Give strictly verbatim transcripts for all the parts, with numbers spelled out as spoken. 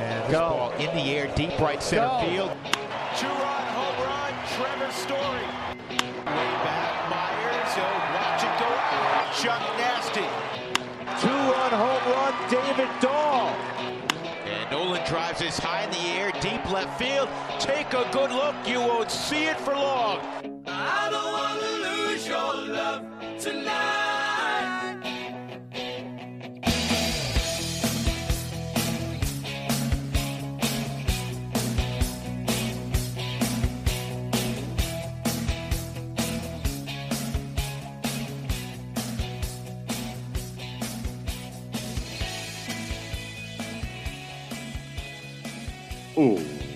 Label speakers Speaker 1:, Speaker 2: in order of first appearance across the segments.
Speaker 1: And this Go. ball in the air, deep right center Go. field.
Speaker 2: Two-run home run, Trevor Story. Way back, Myers, he'll watch it go out. Chuck Nasty.
Speaker 3: Two-run home run, David Dahl.
Speaker 2: And Nolan drives this high in the air, deep left field. Take a good look, you won't see it for long.
Speaker 4: I don't want to lose your love tonight.
Speaker 5: Ooh.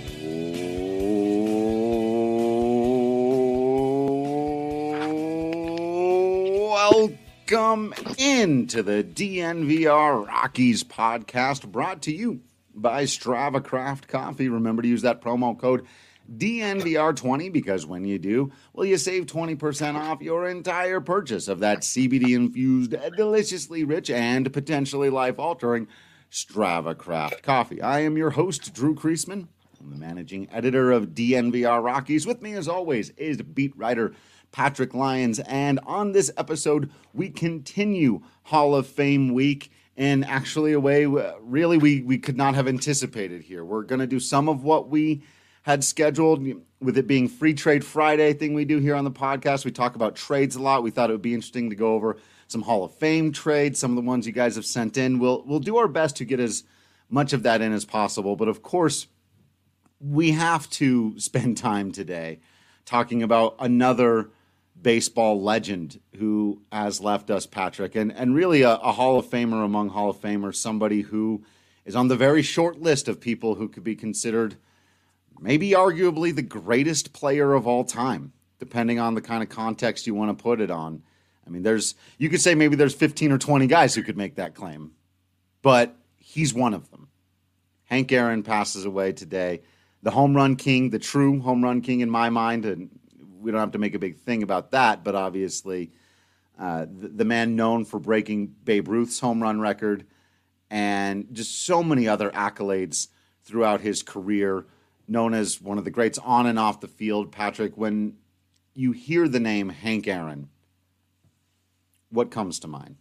Speaker 5: Welcome into the D N V R Rockies podcast, brought to you by Strava Craft Coffee. Remember to use that promo code D N V R twenty, because when you do, well, you save twenty percent off your entire purchase of that C B D-infused, deliciously rich, and potentially life-altering Strava Craft Coffee. I am your host, Drew Kreisman. I'm the managing editor of D N V R Rockies. With me, as always, is beat writer Patrick Lyons. And on this episode, we continue Hall of Fame week in actually a way really we, we could not have anticipated here. We're going to do some of what we had scheduled, with it being Free Trade Friday thing we do here on the podcast. We talk about trades a lot. We thought it would be interesting to go over some Hall of Fame trades, some of the ones you guys have sent in. We'll we'll do our best to get as much of that in as possible. But of course, we have to spend time today talking about another baseball legend who has left us, Patrick, and, and really a, a Hall of Famer among Hall of Famers, somebody who is on the very short list of people who could be considered maybe arguably the greatest player of all time, depending on the kind of context you want to put it on. I mean, there's you could say maybe there's fifteen or twenty guys who could make that claim, but he's one of them. Hank Aaron passes away today. The home run king, the true home run king in my mind, and we don't have to make a big thing about that, but obviously uh, the, the man known for breaking Babe Ruth's home run record and just so many other accolades throughout his career, known as one of the greats on and off the field. Patrick, when you hear the name Hank Aaron, what comes to mind?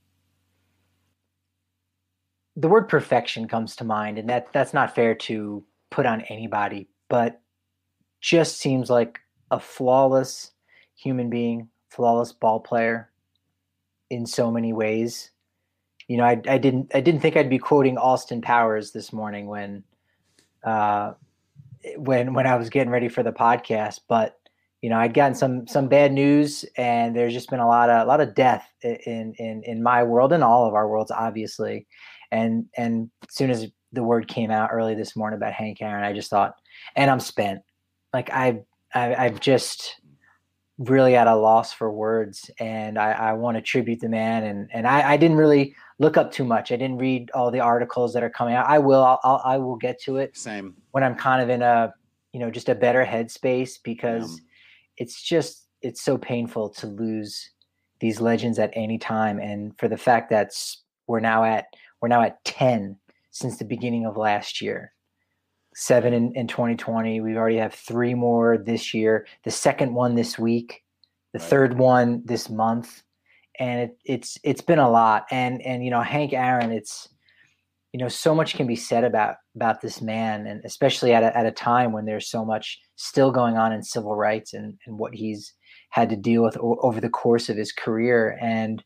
Speaker 6: The word perfection comes to mind, and that that's not fair to put on anybody, but just seems like a flawless human being, flawless ball player in so many ways. You know, I, I didn't I didn't think I'd be quoting Austin Powers this morning when uh, when when I was getting ready for the podcast, but you know, I'd gotten some some bad news, and there's just been a lot of a lot of death in in in my world and all of our worlds, obviously. And and as soon as the word came out early this morning about Hank Aaron, I just thought, and I'm spent. Like I, I I've just really at a loss for words, and I, I want to tribute the man. And and I, I didn't really look up too much. I didn't read all the articles that are coming out. I will. I'll, I'll I will get to it.
Speaker 5: Same.
Speaker 6: When I'm kind of in a you know just a better headspace, because. Yeah. It's just, it's so painful to lose these legends at any time. And for the fact that we're now at, we're now at ten since the beginning of last year, seven in, in twenty twenty. We already have three more this year, the second one this week, the right. third one this month. And it, it's, it's been a lot. And, and, you know, Hank Aaron, it's, you know, so much can be said about, about this man, and especially at a, at a time when there's so much still going on in civil rights and, and what he's had to deal with o- over the course of his career. And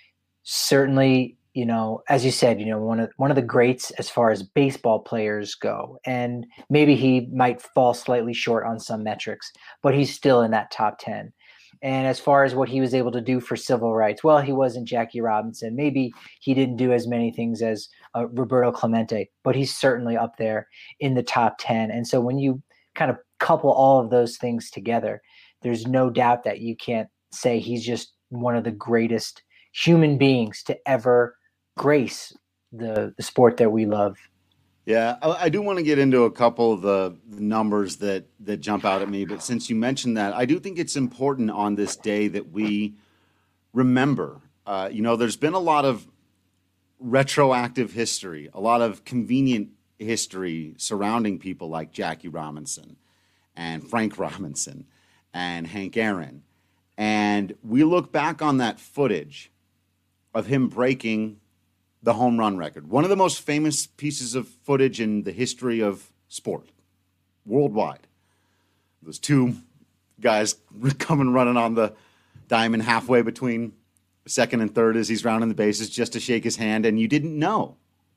Speaker 6: certainly, you know, as you said, you know, one of, one of the greats as far as baseball players go, and maybe he might fall slightly short on some metrics, but he's still in that top ten. And as far as what he was able to do for civil rights, well, he wasn't Jackie Robinson. Maybe he didn't do as many things as uh, Roberto Clemente, but he's certainly up there in the top ten. And so when you kind of couple all of those things together, there's no doubt that you can't say he's just one of the greatest human beings to ever grace the, the sport that we love.
Speaker 5: Yeah, I, I do want to get into a couple of the, the numbers that, that jump out at me. But since you mentioned that, I do think it's important on this day that we remember. Uh, you know, there's been a lot of retroactive history, a lot of convenient history surrounding people like Jackie Robinson and Frank Robinson and Hank Aaron. And we look back on that footage of him breaking the home run record. One of the most famous pieces of footage in the history of sport, worldwide. Those two guys coming running on the diamond halfway between second and third as he's rounding the bases just to shake his hand, and you didn't know.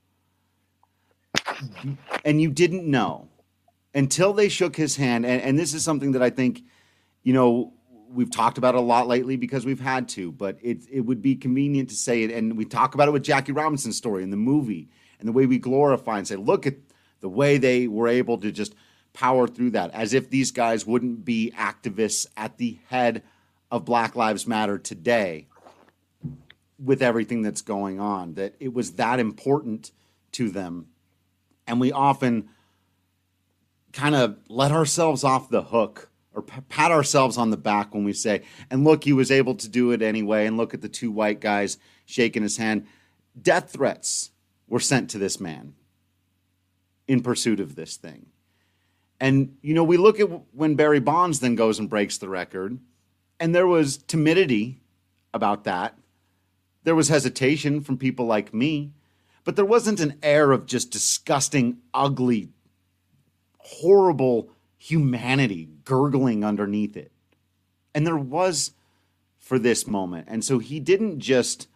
Speaker 5: And you didn't know until they shook his hand. And, and this is something that I think, you know, we've talked about a lot lately because we've had to, but it it would be convenient to say it. And we talk about it with Jackie Robinson's story in the movie and the way we glorify and say, look at the way they were able to just power through that, as if these guys wouldn't be activists at the head of Black Lives Matter today with everything that's going on, that it was that important to them. And we often kind of let ourselves off the hook or pat ourselves on the back when we say, and look, he was able to do it anyway, and look at the two white guys shaking his hand. Death threats were sent to this man in pursuit of this thing. And, you know, we look at when Barry Bonds then goes and breaks the record, and there was timidity about that. There was hesitation from people like me, but there wasn't an air of just disgusting, ugly, horrible humanity gurgling underneath it. And there was for this moment. And so he didn't just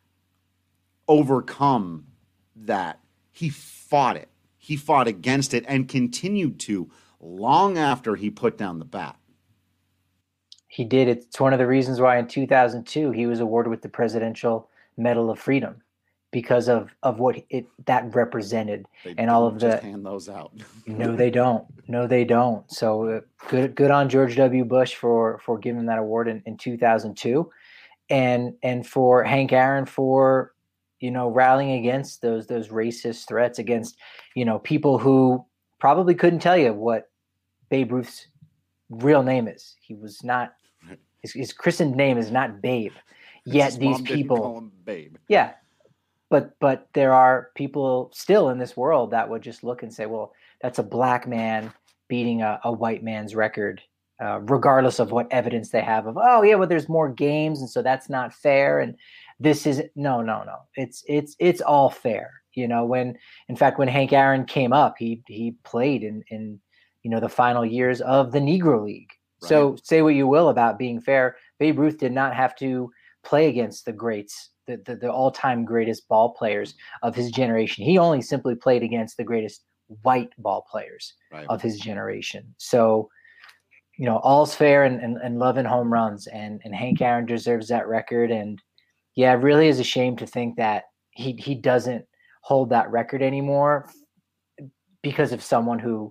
Speaker 5: overcome that. He fought it. He fought against it and continued to long after he put down the bat.
Speaker 6: He did. It's one of the reasons why in two thousand two he was awarded with the Presidential Medal of Freedom, because of, of what it that represented.
Speaker 5: They
Speaker 6: and all of the
Speaker 5: just hand those out.
Speaker 6: No, they don't. No, they don't. So uh, good, good on George W. Bush for for giving that award in, in two thousand two, and and for Hank Aaron for, you know, rallying against those those racist threats against, you know, people who probably couldn't tell you what Babe Ruth's real name is. He was not. His, his christened name is not Babe. Yet
Speaker 5: His
Speaker 6: these
Speaker 5: mom didn't
Speaker 6: people,
Speaker 5: call him Babe.
Speaker 6: yeah. But but there are people still in this world that would just look and say, well, that's a black man beating a, a white man's record, uh, regardless of what evidence they have of, oh, yeah, well, there's more games, and so that's not fair. And this is no, no, no. It's it's it's all fair. You know, when in fact, when Hank Aaron came up, he he played in in you know the final years of the Negro League. Right. So say what you will about being fair, Babe Ruth did not have to play against the greats. The, the, the all-time greatest ball players of his generation. He only simply played against the greatest white ball players right. of his generation. So, you know, all's fair and, and, and love and home runs. And, and Hank Aaron deserves that record. And yeah, it really is a shame to think that he he doesn't hold that record anymore because of someone who,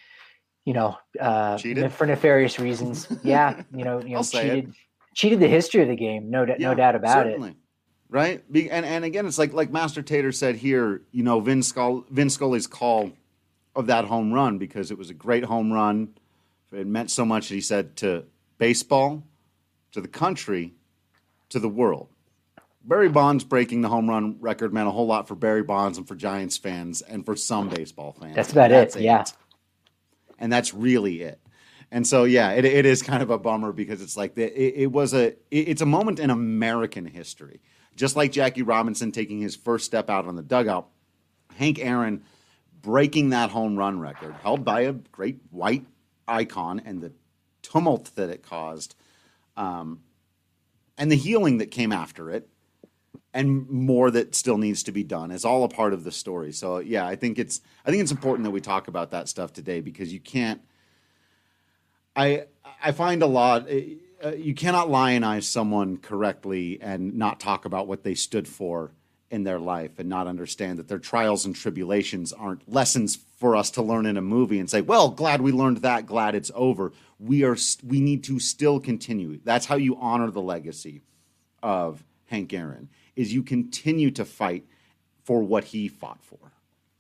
Speaker 6: you know, uh,
Speaker 5: cheated?
Speaker 6: for nefarious reasons. Yeah, you know, you know, cheated,
Speaker 5: it.
Speaker 6: cheated the history of the game. No,
Speaker 5: yeah,
Speaker 6: no doubt about
Speaker 5: certainly.
Speaker 6: it.
Speaker 5: Right. And and again, it's like like Master Tater said here, you know, Vin, Scull, Vin Scully's call of that home run, because it was a great home run. It meant so much that he said to baseball, to the country, to the world. Barry Bonds breaking the home run record meant a whole lot for Barry Bonds and for Giants fans and for some baseball fans.
Speaker 6: That's about
Speaker 5: that's
Speaker 6: it. it. Yeah.
Speaker 5: And that's really it. And so, yeah, it it is kind of a bummer because it's like the, it, it was a it, it's a moment in American history. Just like Jackie Robinson taking his first step out on the dugout, Hank Aaron breaking that home run record, held by a great white icon, and the tumult that it caused, um, and the healing that came after it, and more that still needs to be done, is all a part of the story. So, yeah, I think it's I think it's important that we talk about that stuff today, because you can't. I I find a lot. Uh, you cannot lionize someone correctly and not talk about what they stood for in their life, and not understand that their trials and tribulations aren't lessons for us to learn in a movie and say, well, glad we learned that, glad it's over. We are we need to still continue. That's how you honor the legacy of Hank Aaron, is you continue to fight for what he fought for.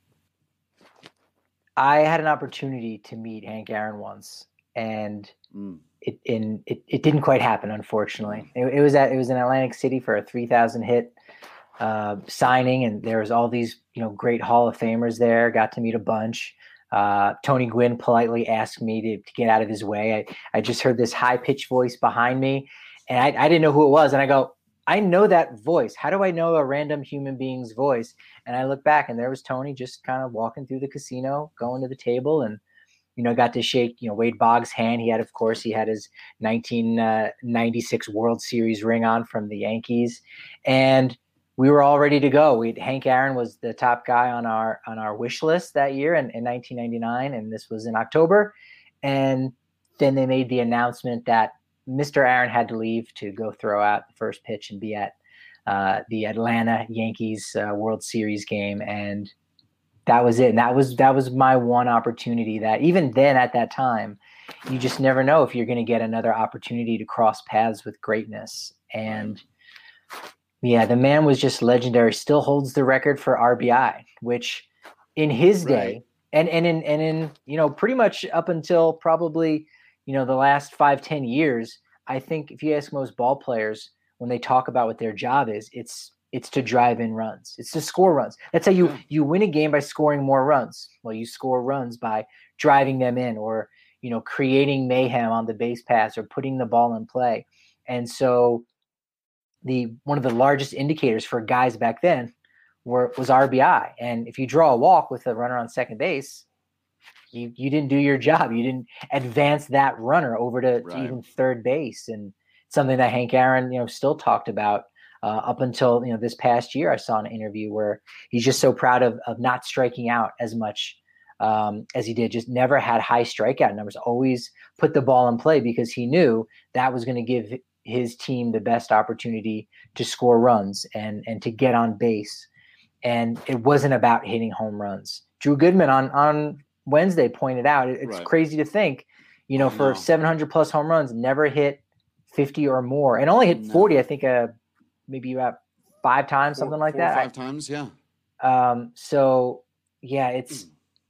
Speaker 6: I had an opportunity to meet Hank Aaron once, and mm. It in it, it didn't quite happen, unfortunately. It, it was at it was in Atlantic City for a three thousand hit uh, signing, and there was all these, you know, great Hall of Famers there. Got to meet a bunch. Uh, Tony Gwynn politely asked me to, to get out of his way. I, I just heard this high pitched voice behind me, and I, I didn't know who it was. And I go, I know that voice. How do I know a random human being's voice? And I look back, and there was Tony just kind of walking through the casino, going to the table, and, you know, got to shake, you know, Wade Boggs' hand. He had, of course, he had his nineteen ninety-six World Series ring on from the Yankees, and we were all ready to go. We Hank Aaron was the top guy on our on our wish list that year in, in nineteen ninety-nine, and this was in October. And then they made the announcement that Mister Aaron had to leave to go throw out the first pitch and be at uh, the Atlanta Yankees uh, World Series game, and that was it. And that was that was my one opportunity. That even then, at that time, you just never know if you're going to get another opportunity to cross paths with greatness. And yeah, the man was just legendary. Still holds the record for R B I, which in his day,
Speaker 5: Right.
Speaker 6: and and in and in you know pretty much up until probably you know the last five ten years, I think if you ask most ball players when they talk about what their job is, it's it's to drive in runs. It's to score runs. That's how you
Speaker 5: Yeah.
Speaker 6: you win a game, by scoring more runs. Well, you score runs by driving them in, or you know creating mayhem on the base pass, or putting the ball in play. And so the one of the largest indicators for guys back then were was R B I. And if you draw a walk with a runner on second base, you you didn't do your job. You didn't advance that runner over to,
Speaker 5: Right.
Speaker 6: to even third base. And something that Hank Aaron, you know, still talked about uh, up until you know this past year. I saw an interview where he's just so proud of of not striking out as much um, as he did. Just never had high strikeout numbers. Always put the ball in play because he knew that was going to give his team the best opportunity to score runs and and to get on base. And it wasn't about hitting home runs. Drew Goodman on on Wednesday pointed out it, it's
Speaker 5: Right.
Speaker 6: crazy to think, you know,
Speaker 5: I
Speaker 6: for
Speaker 5: know.
Speaker 6: seven hundred plus home runs, never hit fifty or more, and only hit
Speaker 5: No.
Speaker 6: forty. I think uh maybe about five times,
Speaker 5: Four-
Speaker 6: something like
Speaker 5: four or
Speaker 6: that.
Speaker 5: Five times, yeah.
Speaker 6: Um, so yeah, it's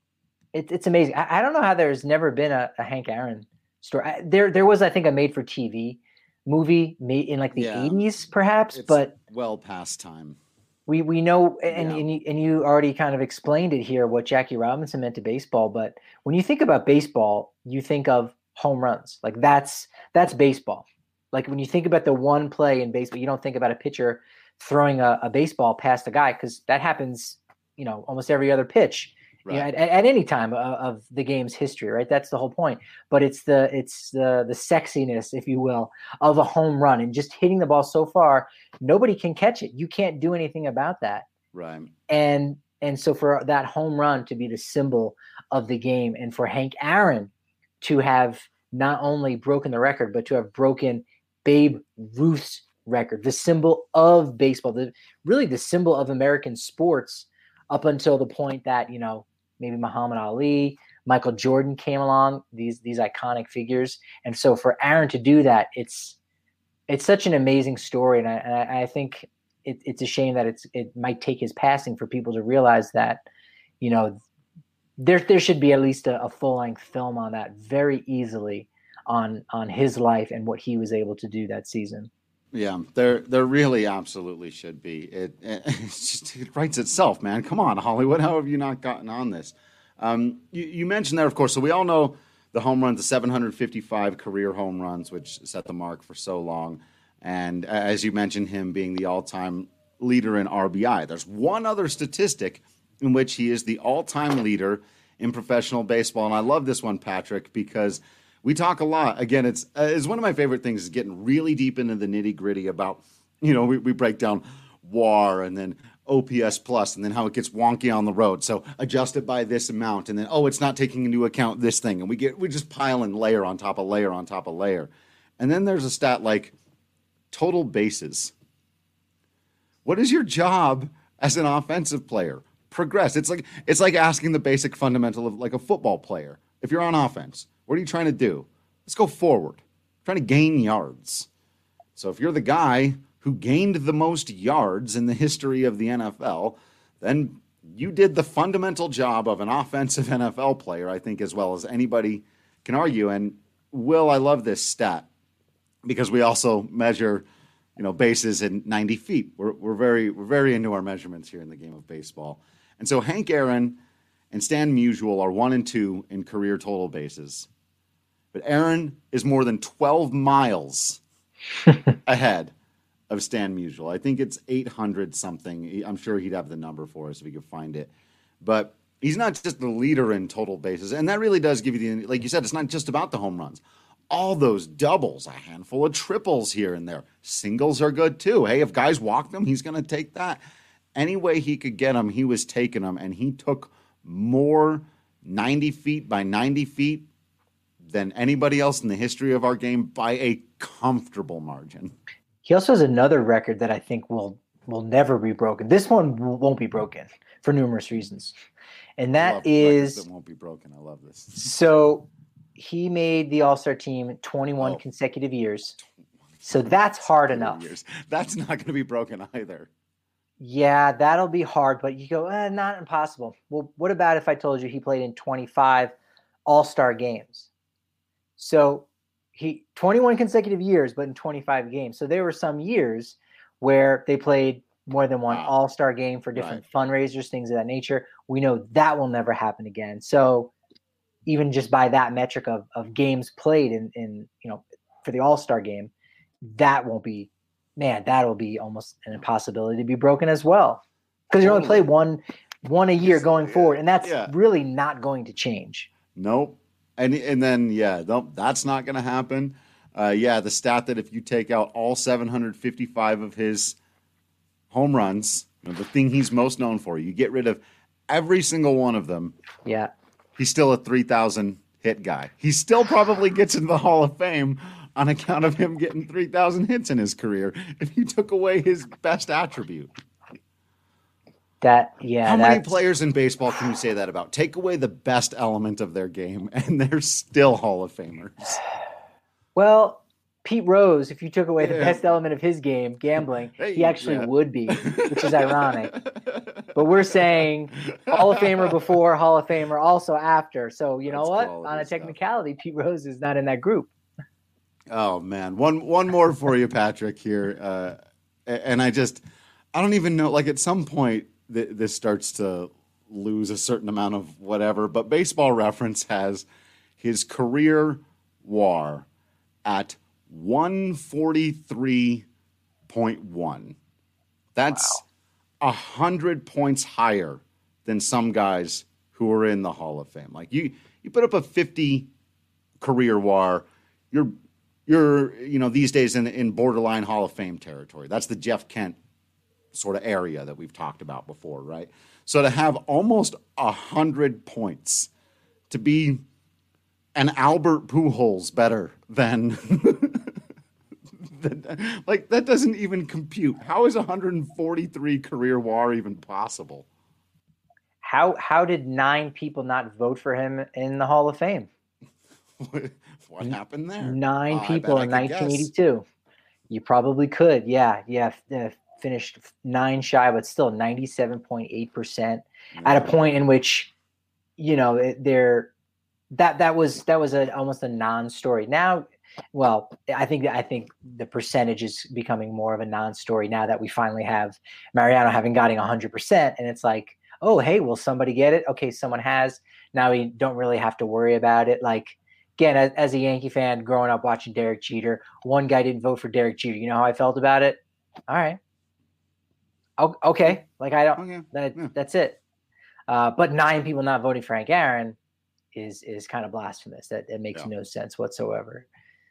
Speaker 6: it, it's amazing. I, I don't know how there's never been a, a Hank Aaron story. I, there there was, I think, a made for T V movie made in like the
Speaker 5: Yeah.
Speaker 6: eighties, perhaps,
Speaker 5: It's
Speaker 6: but
Speaker 5: well past time.
Speaker 6: we we know, and
Speaker 5: Yeah.
Speaker 6: and, you, and you already kind of explained it here what Jackie Robinson meant to baseball. But when you think about baseball, you think of home runs. Like that's that's baseball. Like when you think about the one play in baseball, you don't think about a pitcher throwing a, a baseball past a guy, because that happens, you know, almost every other pitch. You know,
Speaker 5: Right.
Speaker 6: at, at any time of, of the game's history, right? That's the whole point. But it's the it's the the sexiness, if you will, of a home run, and just hitting the ball so far, nobody can catch it. You can't do anything about that.
Speaker 5: Right.
Speaker 6: And and so for that home run to be the symbol of the game, and for Hank Aaron to have not only broken the record, but to have broken Babe Ruth's record, the symbol of baseball, the really the symbol of American sports, up until the point that, you know, maybe Muhammad Ali, Michael Jordan came along, these these iconic figures. And so for Aaron to do that, it's it's such an amazing story. And I, and I, I think it, it's a shame that it's it might take his passing for people to realize that, you know, there there should be at least a, a full-length film on that very easily, on on his life and what he was able to do that season.
Speaker 5: Yeah, there there really absolutely should be. It, it, it's just, it writes itself, man. Come on, Hollywood. How have you not gotten on this? Um, you, you mentioned there, of course, so we all know the home runs, the seven hundred fifty-five career home runs, which set the mark for so long. And as you mentioned, him being the all-time leader in R B I. There's one other statistic in which he is the all-time leader in professional baseball. And I love this one, Patrick, because we talk a lot. Again, it's uh, it's one of my favorite things is getting really deep into the nitty gritty about, you know, we, we break down W A R and then O P S plus and then how it gets wonky on the road. So adjust it by this amount. And then, oh, it's not taking into account this thing. And we get, we just pile in layer on top of layer on top of layer. And then there's a stat like total bases. What is your job as an offensive player? Progress. It's like, it's like asking the basic fundamental of like a football player. If you're on offense, what are you trying to do? Let's go forward. Trying to gain yards. So if you're the guy who gained the most yards in the history of the N F L, then you did the fundamental job of an offensive N F L player, I think, as well as anybody can argue. And Will, I love this stat because we also measure you know, bases in ninety feet. We're we're very we're very into our measurements here in the game of baseball. And so Hank Aaron and Stan Musial are one and two in career total bases. But Aaron is more than twelve miles ahead of Stan Musial. I think it's eight hundred something. I'm sure he'd have the number for us if he could find it. But he's not just the leader in total bases. And that really does give you the, like you said, it's not just about the home runs. All those doubles, a handful of triples here and there. Singles are good too. Hey, if guys walk them, he's going to take that. Any way he could get them, he was taking them. And he took more ninety feet by ninety feet than anybody else in the history of our game by a comfortable margin.
Speaker 6: He also has another record that I think will will never be broken. This one won't be broken for numerous reasons. And that is
Speaker 5: that won't be broken. I love this.
Speaker 6: So he made the All-Star team twenty-one oh. consecutive years. So that's hard enough.
Speaker 5: Years. That's not going to be broken either.
Speaker 6: Yeah, that'll be hard, but you go, eh, not impossible. Well, what about if I told you he played in twenty-five All-Star games? So he twenty-one consecutive years, but in twenty-five games. So there were some years where they played more than one wow. All-Star game for different right. fundraisers, things of that nature. We know that will never happen again. So even just by that metric of of games played in, in you know, for the All-Star game, that won't be, man, that'll be almost an impossibility to be broken as well. Because you only play one one a year going forward, and that's yeah. really not going to change.
Speaker 5: Nope. And and then, yeah, nope, that's not going to happen. Uh, yeah, the stat that if you take out all seven hundred fifty-five of his home runs, you know, the thing he's most known for, you get rid of every single one of them.
Speaker 6: Yeah.
Speaker 5: He's still a three thousand hit guy. He still probably gets into the Hall of Fame on account of him getting three thousand hits in his career if you took away his best attribute.
Speaker 6: That, yeah.
Speaker 5: How many players in baseball can you say that about? Take away the best element of their game, and they're still Hall of Famers.
Speaker 6: Well, Pete Rose, if you took away the yeah. best element of his game, gambling, hey, he actually yeah. would be, which is ironic. But we're saying Hall of Famer before, Hall of Famer also after. So you know That's what? On a technicality, stuff. Pete Rose is not in that group.
Speaker 5: Oh, man. One one more for you, Patrick, here. Uh, and I just, I don't even know, like at some point, th- this starts to lose a certain amount of whatever. But Baseball Reference has his career W A R at one forty-three point one. That's a wow. hundred points higher than some guys who are in the Hall of Fame. Like you, you put up a fifty career W A R, you're you're you know these days in in borderline Hall of Fame territory. That's the Jeff Kent sort of area that we've talked about before, right? So to have almost a hundred points, to be an Albert Pujols better than. Like, that doesn't even compute. How is one forty-three career W A R even possible?
Speaker 6: How how did nine people not vote for him in the Hall of Fame?
Speaker 5: What, what happened there?
Speaker 6: Nine oh, people in nineteen eighty-two. Guess. You probably could. Yeah, yeah. Uh, finished nine shy, but still ninety-seven point eight percent at a point in which, you know, they're that that was that was a almost a non-story. Now, well, I think I think the percentage is becoming more of a non-story now that we finally have Mariano having gotten one hundred percent, and it's like, oh, hey, will somebody get it? Okay, someone has. Now we don't really have to worry about it. Like, again, as, as a Yankee fan growing up watching Derek Jeter, one guy didn't vote for Derek Jeter. You know how I felt about it? All right. Oh, okay. Like, I don't, okay. that, yeah. that's it. Uh, but nine people not voting for Hank Aaron is is kind of blasphemous. That it makes yeah. no sense whatsoever.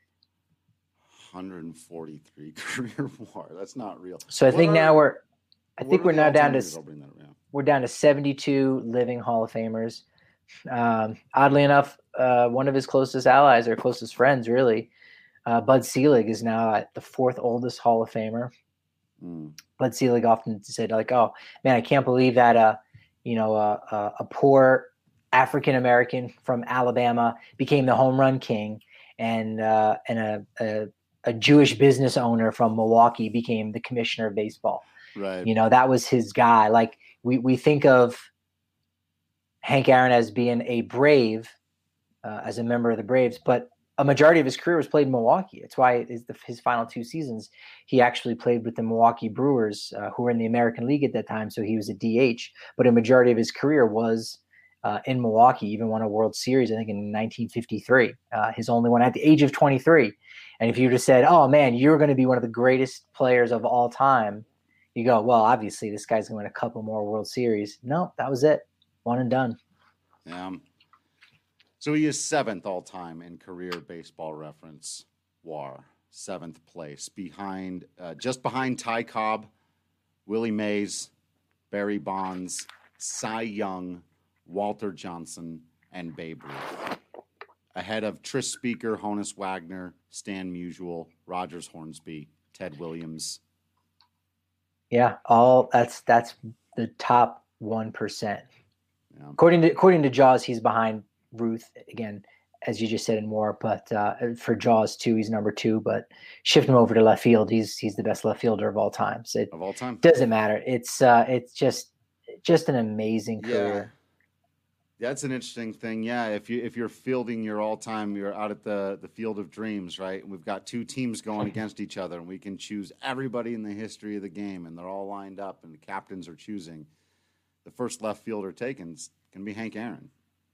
Speaker 5: one forty-three career W A R. That's not real.
Speaker 6: So I what think are, now we're, I think we're now down to,
Speaker 5: up, yeah.
Speaker 6: we're down to seventy-two living Hall of Famers. Um, oddly enough, uh, one of his closest allies or closest friends, really, uh, Bud Selig, is now at the fourth oldest Hall of Famer. Mm. Bud Selig often said, like, "Oh man, I can't believe that, uh, you know, uh, uh, a poor African American from Alabama became the home run king, and uh, and a, a a Jewish business owner from Milwaukee became the commissioner of baseball."
Speaker 5: Right.
Speaker 6: You know, that was his guy. Like we we think of Hank Aaron as being a Brave, uh, as a member of the Braves, but a majority of his career was played in Milwaukee. It's why his, his final two seasons, he actually played with the Milwaukee Brewers, uh, who were in the American League at that time. So he was a D H, but a majority of his career was uh, in Milwaukee, even won a World Series, I think in nineteen fifty-three, uh, his only one at the age of twenty-three. And if you just said, oh man, you're going to be one of the greatest players of all time, you go, well, obviously this guy's going to win a couple more World Series. No, that was it. One and done.
Speaker 5: Yeah. So he is seventh all-time in career Baseball Reference W A R, seventh place, behind, uh, just behind Ty Cobb, Willie Mays, Barry Bonds, Cy Young, Walter Johnson, and Babe Ruth. Ahead of Tris Speaker, Honus Wagner, Stan Musial, Rogers Hornsby, Ted Williams.
Speaker 6: Yeah, all that's that's the top one percent.
Speaker 5: Yeah.
Speaker 6: According to according to Jaws, he's behind Ruth again, as you just said, in WAR. But uh, for Jaws two, he's number two. But shift him over to left field, he's he's the best left fielder of all time. So it
Speaker 5: of all time,
Speaker 6: doesn't matter. It's uh, it's just just an amazing career.
Speaker 5: Yeah. That's an interesting thing. Yeah, if you if you're fielding your all time, you're out at the the field of dreams, right? And we've got two teams going against each other, and we can choose everybody in the history of the game, and they're all lined up, and the captains are choosing. The first left fielder taken can be Hank Aaron.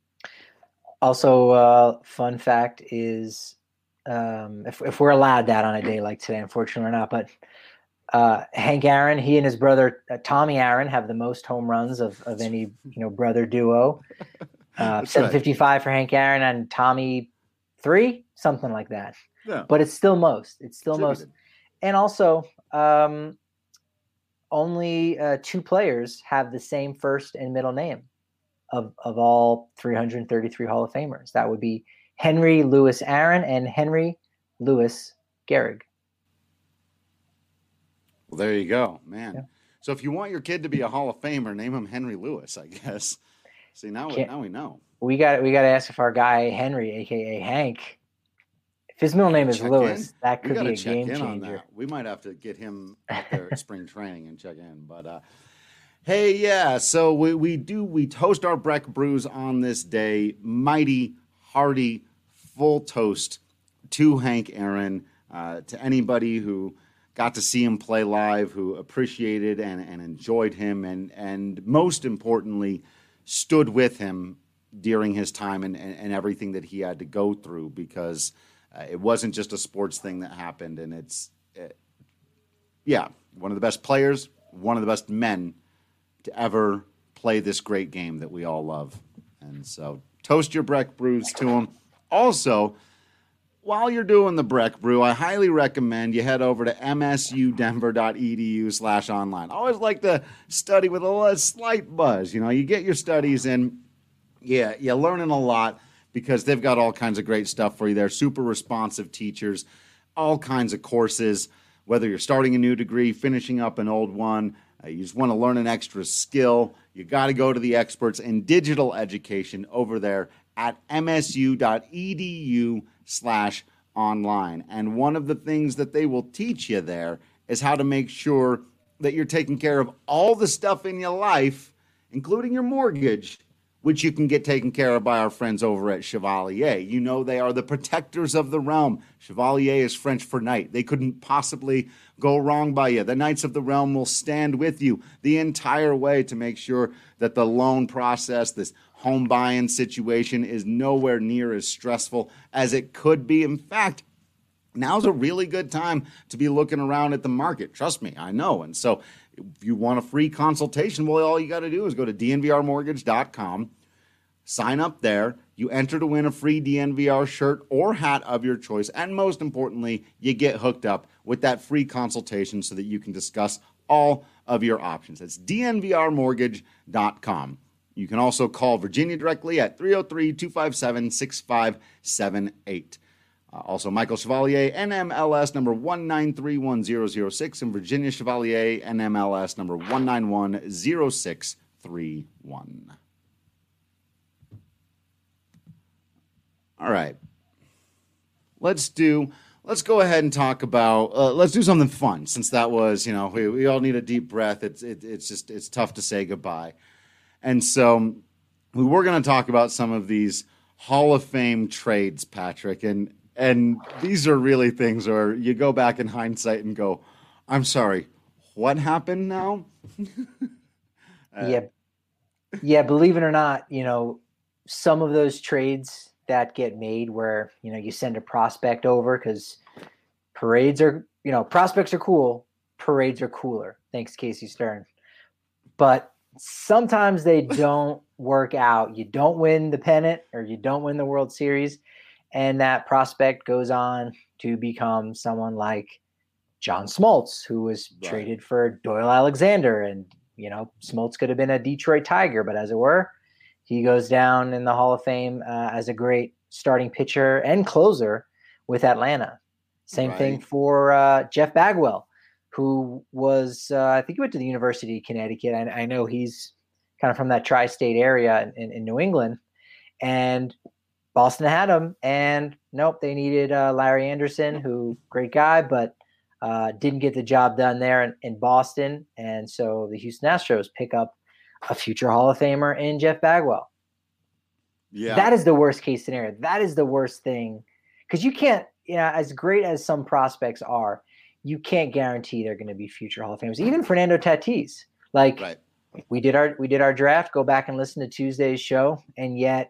Speaker 6: Also, uh, fun fact is, um, if if we're allowed that on a day like today, unfortunately we're not, but uh, Hank Aaron, he and his brother uh, Tommy Aaron have the most home runs of, of any you know brother duo. Uh, seven fifty-five right. For Hank Aaron and Tommy three, something like that.
Speaker 5: Yeah.
Speaker 6: But it's still most. It's still
Speaker 5: Attributed.
Speaker 6: most. And also, um, only uh, two players have the same first and middle name of of all three hundred thirty-three Hall of Famers. That would be Henry Louis Aaron and Henry Louis Gehrig.
Speaker 5: Well, there you go, man.
Speaker 6: Yeah.
Speaker 5: So if you want your kid to be a Hall of Famer, name him Henry Lewis, I guess. See, now we, now we know.
Speaker 6: We got we got to ask if our guy Henry, aka Hank, if his middle name is
Speaker 5: check
Speaker 6: Lewis,
Speaker 5: in.
Speaker 6: that could be a
Speaker 5: check
Speaker 6: game
Speaker 5: in
Speaker 6: changer.
Speaker 5: On that. We might have to get him out there at spring training and check in. But uh, hey, yeah. So we we do we toast our Breck brews on this day. Mighty, hearty, full toast to Hank Aaron, uh, to anybody who got to see him play live, who appreciated and, and enjoyed him, and and most importantly, stood with him during his time and, and, and everything that he had to go through, because uh, it wasn't just a sports thing that happened. And it's, uh, yeah, one of the best players, one of the best men to ever play this great game that we all love. And so toast your Breck brews to him. Also, while you're doing the Breck brew, I highly recommend you head over to msudenver.edu slash online. I always like to study with a slight buzz. You know, you get your studies in, yeah, you're learning a lot because they've got all kinds of great stuff for you there. Super responsive teachers, all kinds of courses, whether you're starting a new degree, finishing up an old one, uh, you just want to learn an extra skill, you got to go to the experts in digital education over there at msu.edu slash online. And one of the things that they will teach you there is how to make sure that you're taking care of all the stuff in your life, including your mortgage, which you can get taken care of by our friends over at Chevalier. You know, they are the protectors of the realm. Chevalier is French for knight. They couldn't possibly go wrong by you. The Knights of the Realm will stand with you the entire way to make sure that the loan process, this home buying situation, is nowhere near as stressful as it could be. In fact, now's a really good time to be looking around at the market. Trust me, I know. And so if you want a free consultation, well, all you got to do is go to d n v r mortgage dot com, sign up there. You enter to win a free D N V R shirt or hat of your choice. And most importantly, you get hooked up with that free consultation so that you can discuss all of your options. That's d n v r mortgage dot com. You can also call Virginia directly at three oh three, two five seven, six five seven eight. Uh, also, Michael Chevalier, N M L S number one nine three one zero zero six, and Virginia Chevalier, N M L S number one nine one zero six three one. All right. Let's do, let's go ahead and talk about, uh, let's do something fun, since that was, you know, we, we all need a deep breath. It's, it, it's just, it's tough to say goodbye. And so we were going to talk about some of these Hall of Fame trades, Patrick. And And these are really things where you go back in hindsight and go, I'm sorry, what happened now?
Speaker 6: uh, yeah. Yeah, believe it or not, you know, some of those trades that get made where, you know, you send a prospect over because parades are, you know, prospects are cool, parades are cooler. Thanks, Casey Stern. But sometimes they don't work out. You don't win the pennant or you don't win the World Series, and that prospect goes on to become someone like John Smoltz, who was right. traded for Doyle Alexander. And, you know, Smoltz could have been a Detroit Tiger, but as it were, he goes down in the Hall of Fame uh, as a great starting pitcher and closer with Atlanta. Same right. thing for uh, Jeff Bagwell, who was, uh, I think he went to the University of Connecticut. I, I know he's kind of from that tri-state area in, in New England. And Boston had him. And nope, they needed uh, Larry Anderson, who great guy, but uh, didn't get the job done there in, in Boston. And so the Houston Astros pick up a future Hall of Famer in Jeff Bagwell. Yeah, that is the worst case scenario. That is the worst thing. Because you can't, you know, as great as some prospects are, you can't guarantee they're going to be future Hall of Famers. Even Fernando Tatis, like right. we did our we did our draft. Go back and listen to Tuesday's show, and yet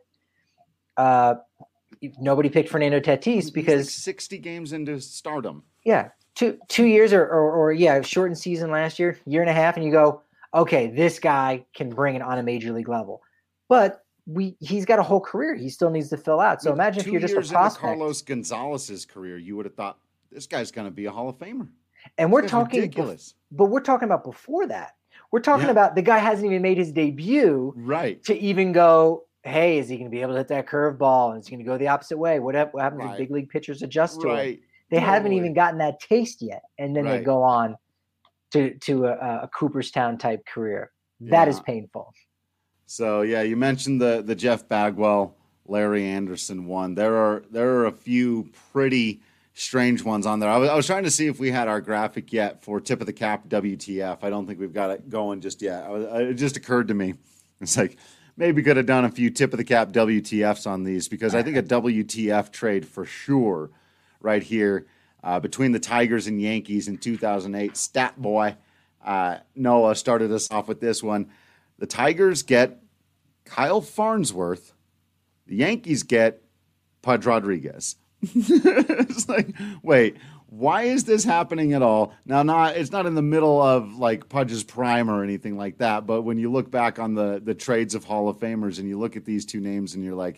Speaker 6: uh, nobody picked Fernando Tatis because
Speaker 5: like sixty games into stardom.
Speaker 6: Yeah, two two years or, or or yeah, shortened season last year, year and a half, and you go, okay, this guy can bring it on a major league level, but we he's got a whole career he still needs to fill out. So imagine if you're just a prospect.
Speaker 5: Carlos Gonzalez's career, you would have thought this guy's going to be a Hall of Famer.
Speaker 6: And we're talking ridiculous. But we're talking about before that. We're talking yeah. about the guy hasn't even made his debut
Speaker 5: right.
Speaker 6: to even go, hey, is he going to be able to hit that curveball? And is he going to go the opposite way? What, what happens right. if big league pitchers adjust to
Speaker 5: right.
Speaker 6: it? They totally. haven't even gotten that taste yet. And then right. they go on to, to a, a Cooperstown type career. That yeah. is painful.
Speaker 5: So, yeah, you mentioned the the Jeff Bagwell, Larry Anderson one. There are there are a few pretty strange ones on there. I was, I was trying to see if we had our graphic yet for Tip of the Cap W T F. I don't think we've got it going just yet. I was, it just occurred to me. It's like maybe could have done a few Tip of the Cap W T Fs on these because I think a W T F trade for sure right here uh, between the Tigers and Yankees in two thousand eight. Stat boy uh, Noah started us off with this one. The Tigers get Kyle Farnsworth. The Yankees get Pudge Rodriguez. It's like, wait, why is this happening at all? Now, not it's not in the middle of like Pudge's prime or anything like that, but when you look back on the the trades of Hall of Famers and you look at these two names and you're like,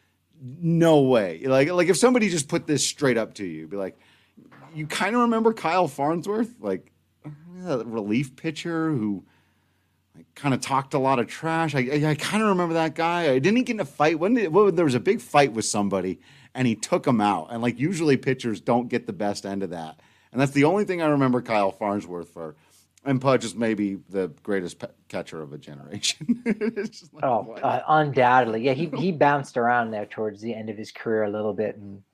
Speaker 5: no way. Like, like if somebody just put this straight up to you, be like, you kind of remember Kyle Farnsworth, like a relief pitcher who I kind of talked a lot of trash. I, I, I kind of remember that guy. I didn't get in a fight. When did, well, there was a big fight with somebody, and he took him out. And like usually pitchers don't get the best end of that. And that's the only thing I remember Kyle Farnsworth for. And Pudge is maybe the greatest pe- catcher of a generation.
Speaker 6: like, oh, uh, undoubtedly. Yeah, he he bounced around there towards the end of his career a little bit. And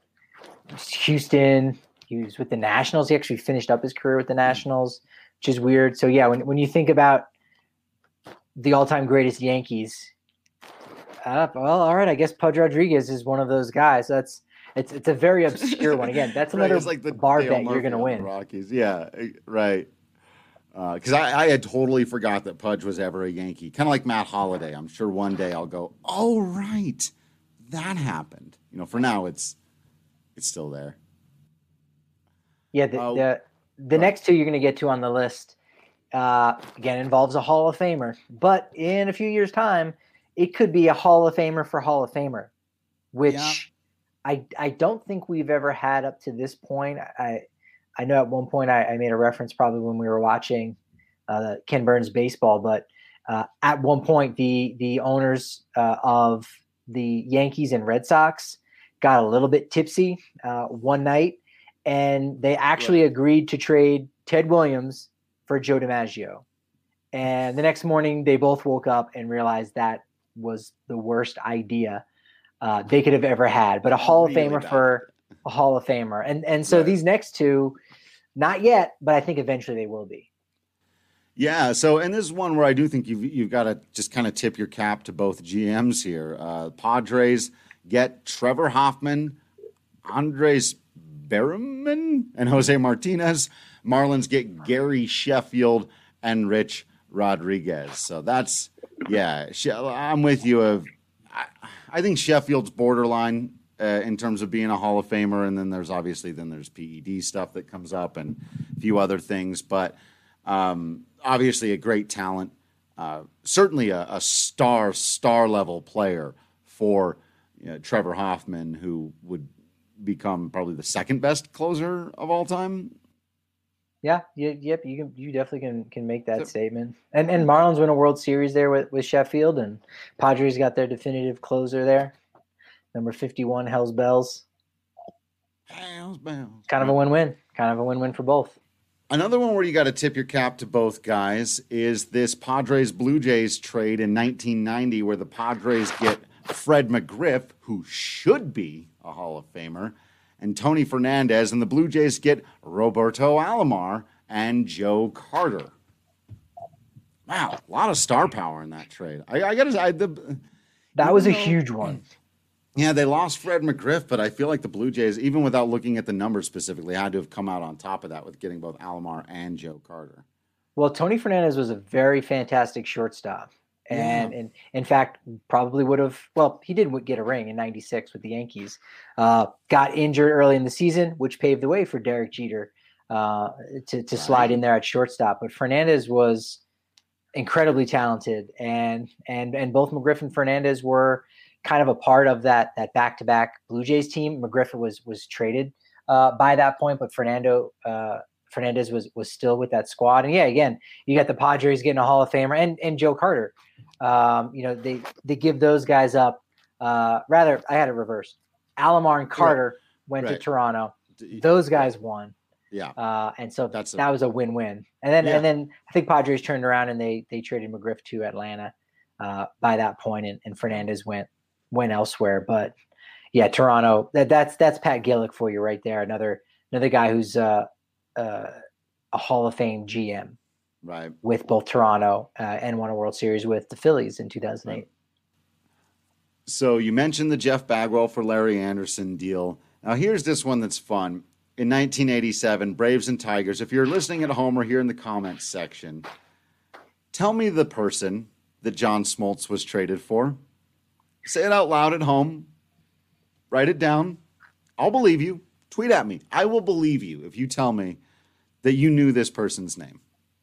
Speaker 6: Houston, he was with the Nationals. He actually finished up his career with the Nationals, which is weird. So yeah, when when you think about the all-time greatest Yankees. Uh, well, all right. I guess Pudge Rodriguez is one of those guys. That's it's it's a very obscure one. Again, that's another
Speaker 5: right, like the
Speaker 6: bar
Speaker 5: Dale
Speaker 6: bet
Speaker 5: Murphy
Speaker 6: you're going to win.
Speaker 5: Rockies, yeah, right. Because uh, I, I had totally forgot that Pudge was ever a Yankee. Kind of like Matt Holliday. I'm sure one day I'll go, oh right, that happened. You know, for now it's it's still there.
Speaker 6: Yeah. The uh, the, the next two you're going to get to on the list. Uh, again, involves a Hall of Famer, but in a few years' time, it could be a Hall of Famer for Hall of Famer, which yeah. I I don't think we've ever had up to this point. I I know at one point I, I made a reference probably when we were watching uh, Ken Burns baseball, but uh, at one point the the owners uh, of the Yankees and Red Sox got a little bit tipsy uh, one night, and they actually right. agreed to trade Ted Williams for Joe DiMaggio. And the next morning they both woke up and realized that was the worst idea uh, they could have ever had, but a Hall of really Famer bad. for a Hall of Famer. And, and so right. these next two, not yet, but I think eventually they will be.
Speaker 5: Yeah. So, and this is one where I do think you've, you've got to just kind of tip your cap to both G Ms here. Uh, Padres get Trevor Hoffman. Andres Berman and Jose Martinez. Marlins get Gary Sheffield and Rich Rodriguez. So that's, yeah, I'm with you. Of, I, I think Sheffield's borderline uh, in terms of being a Hall of Famer. And then there's obviously, then there's P E D stuff that comes up and a few other things. But um, obviously a great talent. Uh, certainly a, a star, star level player for you know, Trevor Hoffman, who would become probably the second best closer of all time.
Speaker 6: Yeah, yeah, yep. You can, you definitely can can make that so, statement. And and Marlins win a World Series there with, with Sheffield, and Padres got their definitive closer there, number fifty-one, Hell's Bells.
Speaker 5: Hell's Bells.
Speaker 6: Kind of a win-win. Kind of a win-win for both.
Speaker 5: Another one where you got to tip your cap to both guys is this Padres Blue Jays trade in nineteen ninety, where the Padres get Fred McGriff, who should be a Hall of Famer, and Tony Fernandez, and the Blue Jays get Roberto Alomar and Joe Carter. Wow, a lot of star power in that trade. I, I got to.
Speaker 6: That was a know, huge one.
Speaker 5: Yeah, they lost Fred McGriff, but I feel like the Blue Jays, even without looking at the numbers specifically, had to have come out on top of that with getting both Alomar and Joe Carter.
Speaker 6: Well, Tony Fernandez was a very fantastic shortstop. And, yeah. and in fact, probably would have, well, he did get a ring in ninety-six with the Yankees. Uh, got injured early in the season, which paved the way for Derek Jeter uh, to, to right. slide in there at shortstop. But Fernandez was incredibly talented. And and and both McGriff and Fernandez were kind of a part of that that back-to-back Blue Jays team. McGriff was was traded uh, by that point, but Fernando uh, Fernandez was was still with that squad. And yeah, again, you got the Padres getting a Hall of Famer and and Joe Carter. Um, you know, they, they give those guys up. Uh, rather, I had it reversed. Alomar and Carter right. went right. to Toronto. Those guys won.
Speaker 5: Yeah.
Speaker 6: Uh, and so
Speaker 5: That's
Speaker 6: that
Speaker 5: a,
Speaker 6: was a win-win. And then,
Speaker 5: yeah.
Speaker 6: and then I think Padres turned around and they, they traded McGriff to Atlanta, uh, by that point, and, and Fernandez went, went elsewhere. But yeah, Toronto, that that's, that's Pat Gillick for you right there. Another, another guy who's, uh, uh, a Hall of Fame G M.
Speaker 5: Right.
Speaker 6: With both Toronto uh, and won a World Series with the Phillies in two thousand eight. Right.
Speaker 5: So you mentioned the Jeff Bagwell for Larry Anderson deal. Now here's this one that's fun. In nineteen eighty-seven, Braves and Tigers. If you're listening at home or here in the comments section, tell me the person that John Smoltz was traded for. Say it out loud at home. Write it down. I'll believe you. Tweet at me. I will believe you if you tell me that you knew this person's name.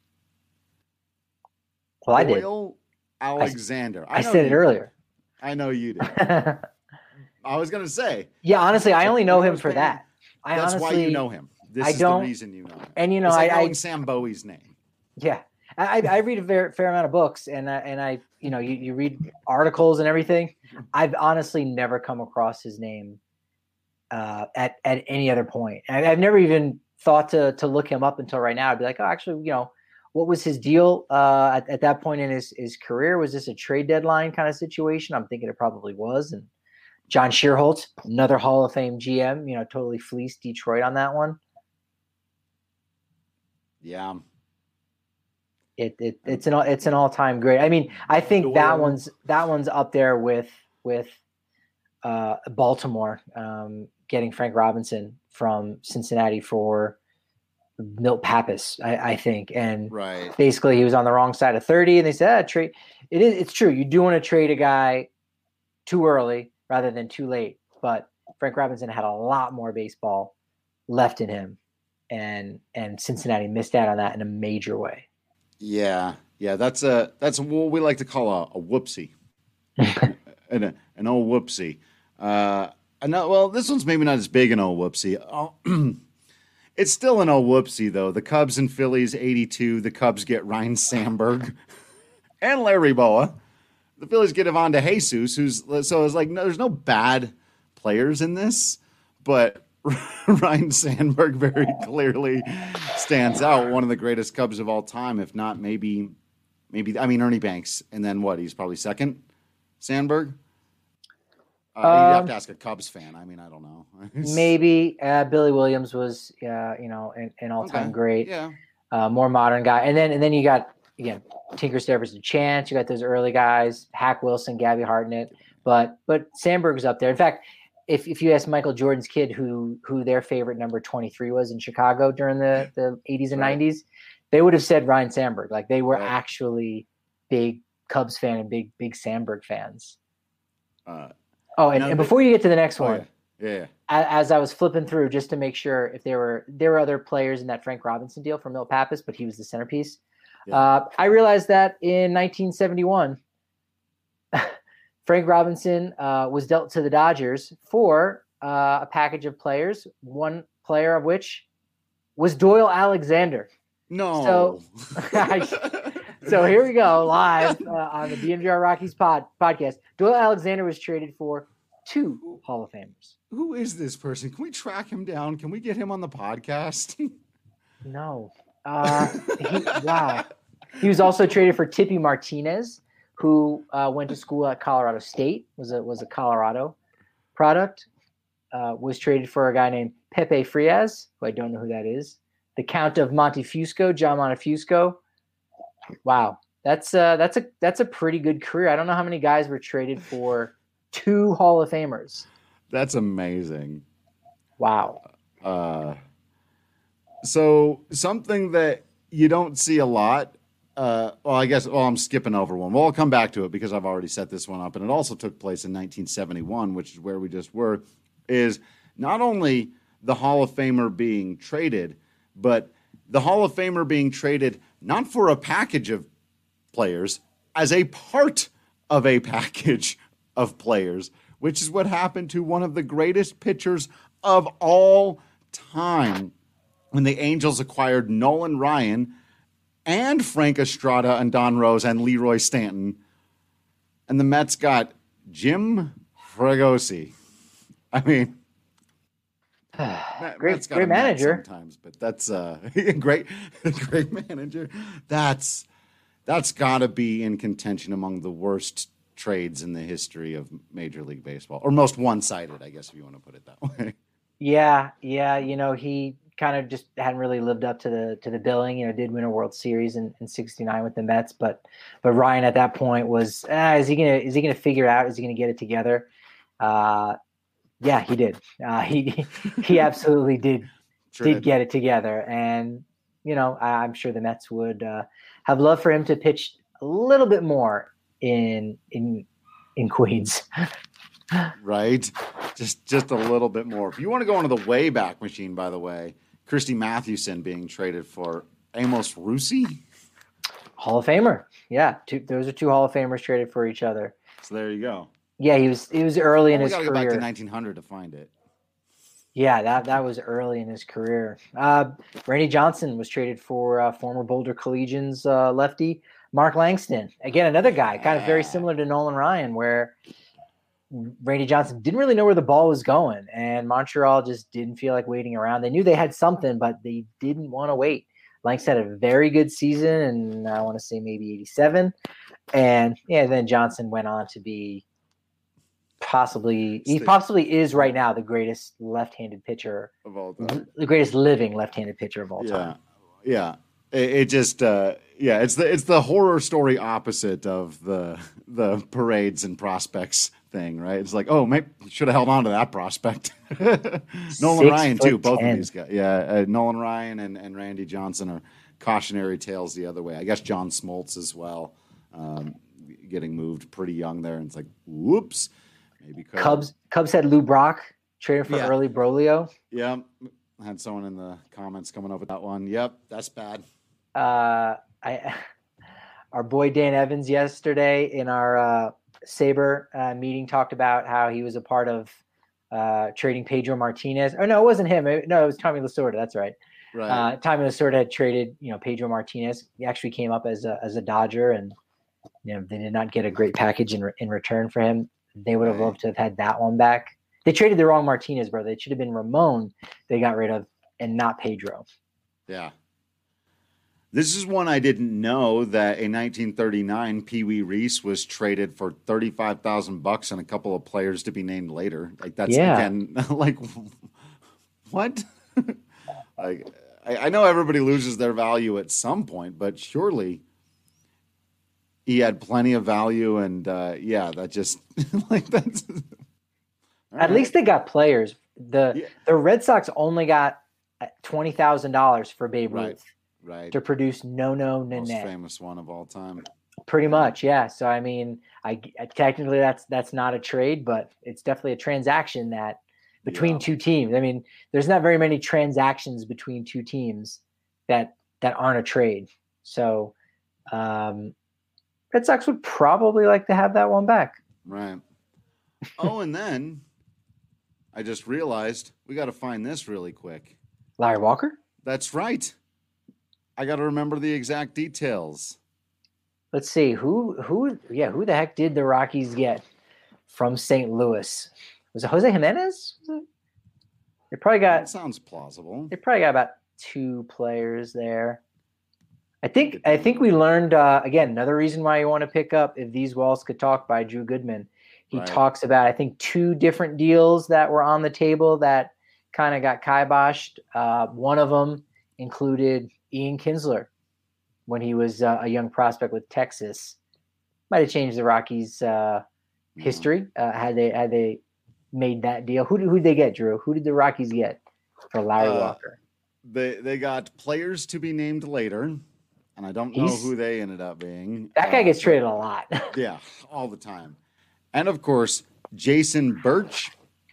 Speaker 6: Well, I did.
Speaker 5: Doyle Alexander.
Speaker 6: I, I, I said it earlier.
Speaker 5: I know you did. I was going to say.
Speaker 6: Yeah, honestly, I only know him for that. I
Speaker 5: That's
Speaker 6: honestly,
Speaker 5: why you know him. This
Speaker 6: I
Speaker 5: is
Speaker 6: don't,
Speaker 5: the reason you know him.
Speaker 6: And, you know,
Speaker 5: it's like
Speaker 6: I,
Speaker 5: knowing
Speaker 6: I
Speaker 5: Sam Bowie's name.
Speaker 6: Yeah. I, I read a fair, fair amount of books, and, uh, and I, you know, you, you read articles and everything. I've honestly never come across his name uh, at, at any other point. I, I've never even thought to to look him up until right now. I'd be like, oh, actually, you know, what was his deal uh, at, at that point in his, his career? Was this a trade deadline kind of situation? I'm thinking it probably was. And John Shearholtz, another Hall of Fame G M, you know, totally fleeced Detroit on that one.
Speaker 5: Yeah.
Speaker 6: It, it it's an it's an all time great. I mean, I think that one's that one's up there with with uh, Baltimore um, getting Frank Robinson from Cincinnati for Milt Pappas, I, I think, and
Speaker 5: right.
Speaker 6: basically he was on the wrong side of thirty, and they said, ah, "Trade." It is. It's true. You do want to trade a guy too early rather than too late. But Frank Robinson had a lot more baseball left in him, and and Cincinnati missed out on that in a major way.
Speaker 5: Yeah, yeah, that's a that's what we like to call a, a whoopsie, an a, an old whoopsie. Uh, no, well, this one's maybe not as big an old whoopsie. Oh, it's still an old whoopsie though. The Cubs and Phillies eighty-two. The Cubs get Ryne Sandberg and Larry Boa. The Phillies get Ivan DeJesus, who's so it's like no, there's no bad players in this, but Ryne Sandberg very clearly stands out. One of the greatest Cubs of all time, if not maybe, maybe I mean Ernie Banks, and then what? He's probably second. Sandberg. Uh, um, you'd have to ask a Cubs fan. I mean, I don't know.
Speaker 6: Maybe uh, Billy Williams was, uh, you know, an, an all-time
Speaker 5: okay.
Speaker 6: great.
Speaker 5: Yeah.
Speaker 6: Uh, more modern guy, and then and then you got again Tinker Stebbers and Chance. You got those early guys, Hack Wilson, Gabby Hartnett, but but Sandberg's up there. In fact, if if you ask Michael Jordan's kid who who their favorite number twenty-three was in Chicago during the, the eighties and right. nineties, they would have said Ryne Sandberg. Like they were right. actually big Cubs fan and big big Sandberg fans. Uh, oh, and, and before you get to the next oh, one,
Speaker 5: yeah. yeah.
Speaker 6: As, as I was flipping through just to make sure if there were there were other players in that Frank Robinson deal for Milt Pappas, but he was the centerpiece. Yeah. Uh, I realized that in nineteen seventy-one. Frank Robinson uh, was dealt to the Dodgers for uh, a package of players, one player of which was Doyle Alexander.
Speaker 5: No.
Speaker 6: So, so here we go, live uh, on the D N V R Rockies pod, podcast. Doyle Alexander was traded for two Hall of Famers.
Speaker 5: Who is this person? Can we track him down? Can we get him on the podcast?
Speaker 6: No. Uh, he, wow. He was also traded for Tippy Martinez, who uh, went to school at Colorado State, was a was a Colorado product, uh, was traded for a guy named Pepe Frias, who I don't know who that is. The Count of Montefusco, John Montefusco. Wow, that's uh, that's a that's a pretty good career. I don't know how many guys were traded for two Hall of Famers.
Speaker 5: That's amazing.
Speaker 6: Wow.
Speaker 5: Uh, so something that you don't see a lot. Uh, well, I guess, well, I'm skipping over one. Well, I'll come back to it because I've already set this one up. And it also took place in nineteen seventy-one, which is where we just were, is not only the Hall of Famer being traded, but the Hall of Famer being traded not for a package of players, as a part of a package of players, which is what happened to one of the greatest pitchers of all time when the Angels acquired Nolan Ryan and Frank Estrada and Don Rose and Leroy Stanton. And the Mets got Jim Fregosi. I mean,
Speaker 6: great,
Speaker 5: Mets got
Speaker 6: great manager
Speaker 5: sometimes, but that's uh, great, great manager. That's that's got to be in contention among the worst trades in the history of Major League Baseball, or most one-sided, I guess, if you want to put it that way.
Speaker 6: Yeah, yeah. You know, he kind of just hadn't really lived up to the to the billing. You know, did win a World Series in, in sixty-nine with the Mets, but but Ryan at that point was, ah, is he gonna is he gonna figure it out? Is he gonna get it together? Uh, yeah, he did. Uh, he he absolutely did sure did, did get it together, and you know, I, I'm sure the Mets would uh, have loved for him to pitch a little bit more in in in Queens.
Speaker 5: Right, just just a little bit more. If you want to go into the Wayback Machine, by the way, Christy Mathewson being traded for Amos Russi,
Speaker 6: Hall of Famer. Yeah, two, those are two Hall of Famers traded for each other.
Speaker 5: So there you go.
Speaker 6: Yeah, he was he was early in
Speaker 5: well,
Speaker 6: his
Speaker 5: we gotta
Speaker 6: career.
Speaker 5: Go back to nineteen hundred to find it.
Speaker 6: Yeah, that that was early in his career. Uh, Randy Johnson was traded for uh, former Boulder Collegians uh, lefty Mark Langston. Again, another guy, kind of very similar to Nolan Ryan, where Randy Johnson didn't really know where the ball was going, and Montreal just didn't feel like waiting around. They knew they had something, but they didn't want to wait. Langston had a very good season, and I want to say maybe eighty-seven. And yeah, then Johnson went on to be possibly he possibly is right now the greatest left-handed pitcher
Speaker 5: of all time,
Speaker 6: the greatest living left-handed pitcher of all
Speaker 5: yeah.
Speaker 6: time.
Speaker 5: Yeah, it, it just uh, yeah, it's the it's the horror story opposite of the the parades and prospects thing, right? It's like, oh, maybe should have held on to that prospect. Nolan Ryan too, both of these guys. Yeah, uh, Nolan Ryan and, and Randy Johnson are cautionary tales the other way. I guess John Smoltz as well, um, getting moved pretty young there, and it's like, whoops. Maybe
Speaker 6: Cubs Cubs had Lou Brock traded for
Speaker 5: yeah.
Speaker 6: early Brolio.
Speaker 5: Yeah, I had someone in the comments coming up with that one. Yep, that's bad.
Speaker 6: Uh, I our boy Dan Evans yesterday in our uh, Sabre uh, meeting talked about how he was a part of uh, trading Pedro Martinez. Oh no, it wasn't him. No, it was Tommy Lasorda. That's right.
Speaker 5: Right.
Speaker 6: Uh, Tommy Lasorda had traded, you know, Pedro Martinez. He actually came up as a as a Dodger, and you know they did not get a great package in re- in return for him. They would have loved to have had that one back. They traded the wrong Martinez, brother. It should have been Ramon they got rid of and not Pedro.
Speaker 5: Yeah. This is one I didn't know, that in nineteen thirty-nine, Pee Wee Reese was traded for thirty-five thousand bucks and a couple of players to be named later. Like that's
Speaker 6: yeah.
Speaker 5: again, like what? Like I, I know everybody loses their value at some point, but surely he had plenty of value, and uh, yeah, that just like that's.
Speaker 6: At least they got players. The
Speaker 5: Yeah.
Speaker 6: the Red Sox only got twenty thousand dollars for Babe
Speaker 5: Right.
Speaker 6: Ruth
Speaker 5: Right.
Speaker 6: to produce No No
Speaker 5: Most
Speaker 6: Nanette.
Speaker 5: famous one of all time.
Speaker 6: Pretty much, yeah. So I mean, I, I technically that's that's not a trade, but it's definitely a transaction that between
Speaker 5: Yeah.
Speaker 6: two teams. I mean, there's not very many transactions between two teams that that aren't a trade. So um, Red Sox would probably like to have that one back.
Speaker 5: Right. Oh, and then I just realized we got to find this really quick.
Speaker 6: Larry Walker?
Speaker 5: That's right. I got to remember the exact details.
Speaker 6: Let's see who who yeah who the heck did the Rockies get from Saint Louis? Was it Jose Jimenez? Was it? They probably
Speaker 5: That
Speaker 6: got
Speaker 5: sounds plausible.
Speaker 6: they probably got about two players there. I think I think we learned uh, again another reason why you want to pick up If These Walls Could Talk by Drew Goodman. He
Speaker 5: Right.
Speaker 6: talks about I think two different deals that were on the table that kind of got kiboshed. Uh, one of them included Ian Kinsler when he was uh, a young prospect with Texas. Might have changed the Rockies' uh, history uh, had they had they made that deal. Who did who did they get, Drew? Who did the Rockies get for Larry
Speaker 5: Uh,
Speaker 6: Walker?
Speaker 5: They they got players to be named later, and I don't know
Speaker 6: He's-
Speaker 5: who they ended up being.
Speaker 6: That guy
Speaker 5: Uh,
Speaker 6: gets traded a lot.
Speaker 5: Yeah, all the time. And of course, Jason Birch,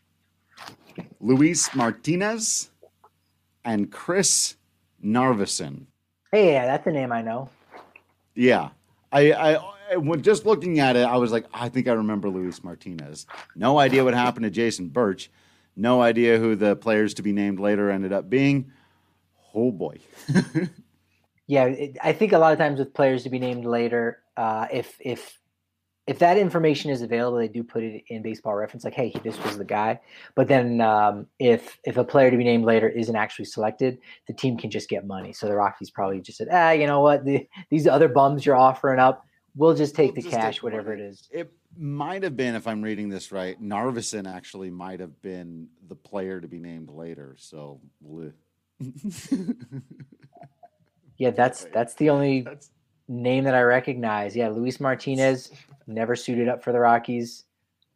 Speaker 5: Luis Martinez, and Chris Narveson.
Speaker 6: Hey, yeah, that's a name I know.
Speaker 5: Yeah. I, I, I when just looking at it, I was like, I think I remember Luis Martinez. No idea what happened to Jason Birch. No idea who the players to be named later ended up being. Oh boy.
Speaker 6: Yeah, it, I think a lot of times with players to be named later, uh, if if if that information is available, they do put it in Baseball Reference, like, hey, this was the guy. But then um, if if a player to be named later isn't actually selected, the team can just get money. So the Rockies probably just said, ah, you know what, the, these other bums you're offering up, we'll just take
Speaker 5: We'll
Speaker 6: the
Speaker 5: just
Speaker 6: cash,
Speaker 5: take
Speaker 6: whatever
Speaker 5: money.
Speaker 6: it is.
Speaker 5: It might have been, if I'm reading this right, Narveson actually might have been the player to be named later. So, bleh.
Speaker 6: Yeah, that's that's the only
Speaker 5: That's
Speaker 6: name that I recognize. Yeah, Luis Martinez never suited up for the Rockies.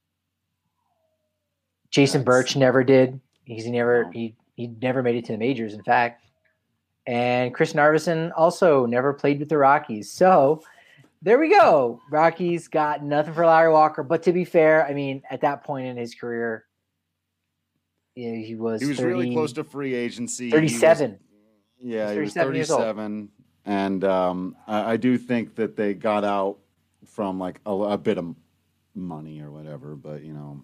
Speaker 6: Jason
Speaker 5: That's-
Speaker 6: Birch never did. He's never
Speaker 5: No.
Speaker 6: he he never made it to the majors, in fact. And Chris Narveson also never played with the Rockies. So there we go. Rockies got nothing for Larry Walker. But to be fair, I mean, at that point in his career, you know, he was
Speaker 5: he was
Speaker 6: thirty,
Speaker 5: really close to free agency. He was-
Speaker 6: thirty-seven.
Speaker 5: Yeah, he was
Speaker 6: thirty-seven years old.
Speaker 5: thirty-seven, and um, I, I do think that they got out from like a, a bit of money or whatever. But you know,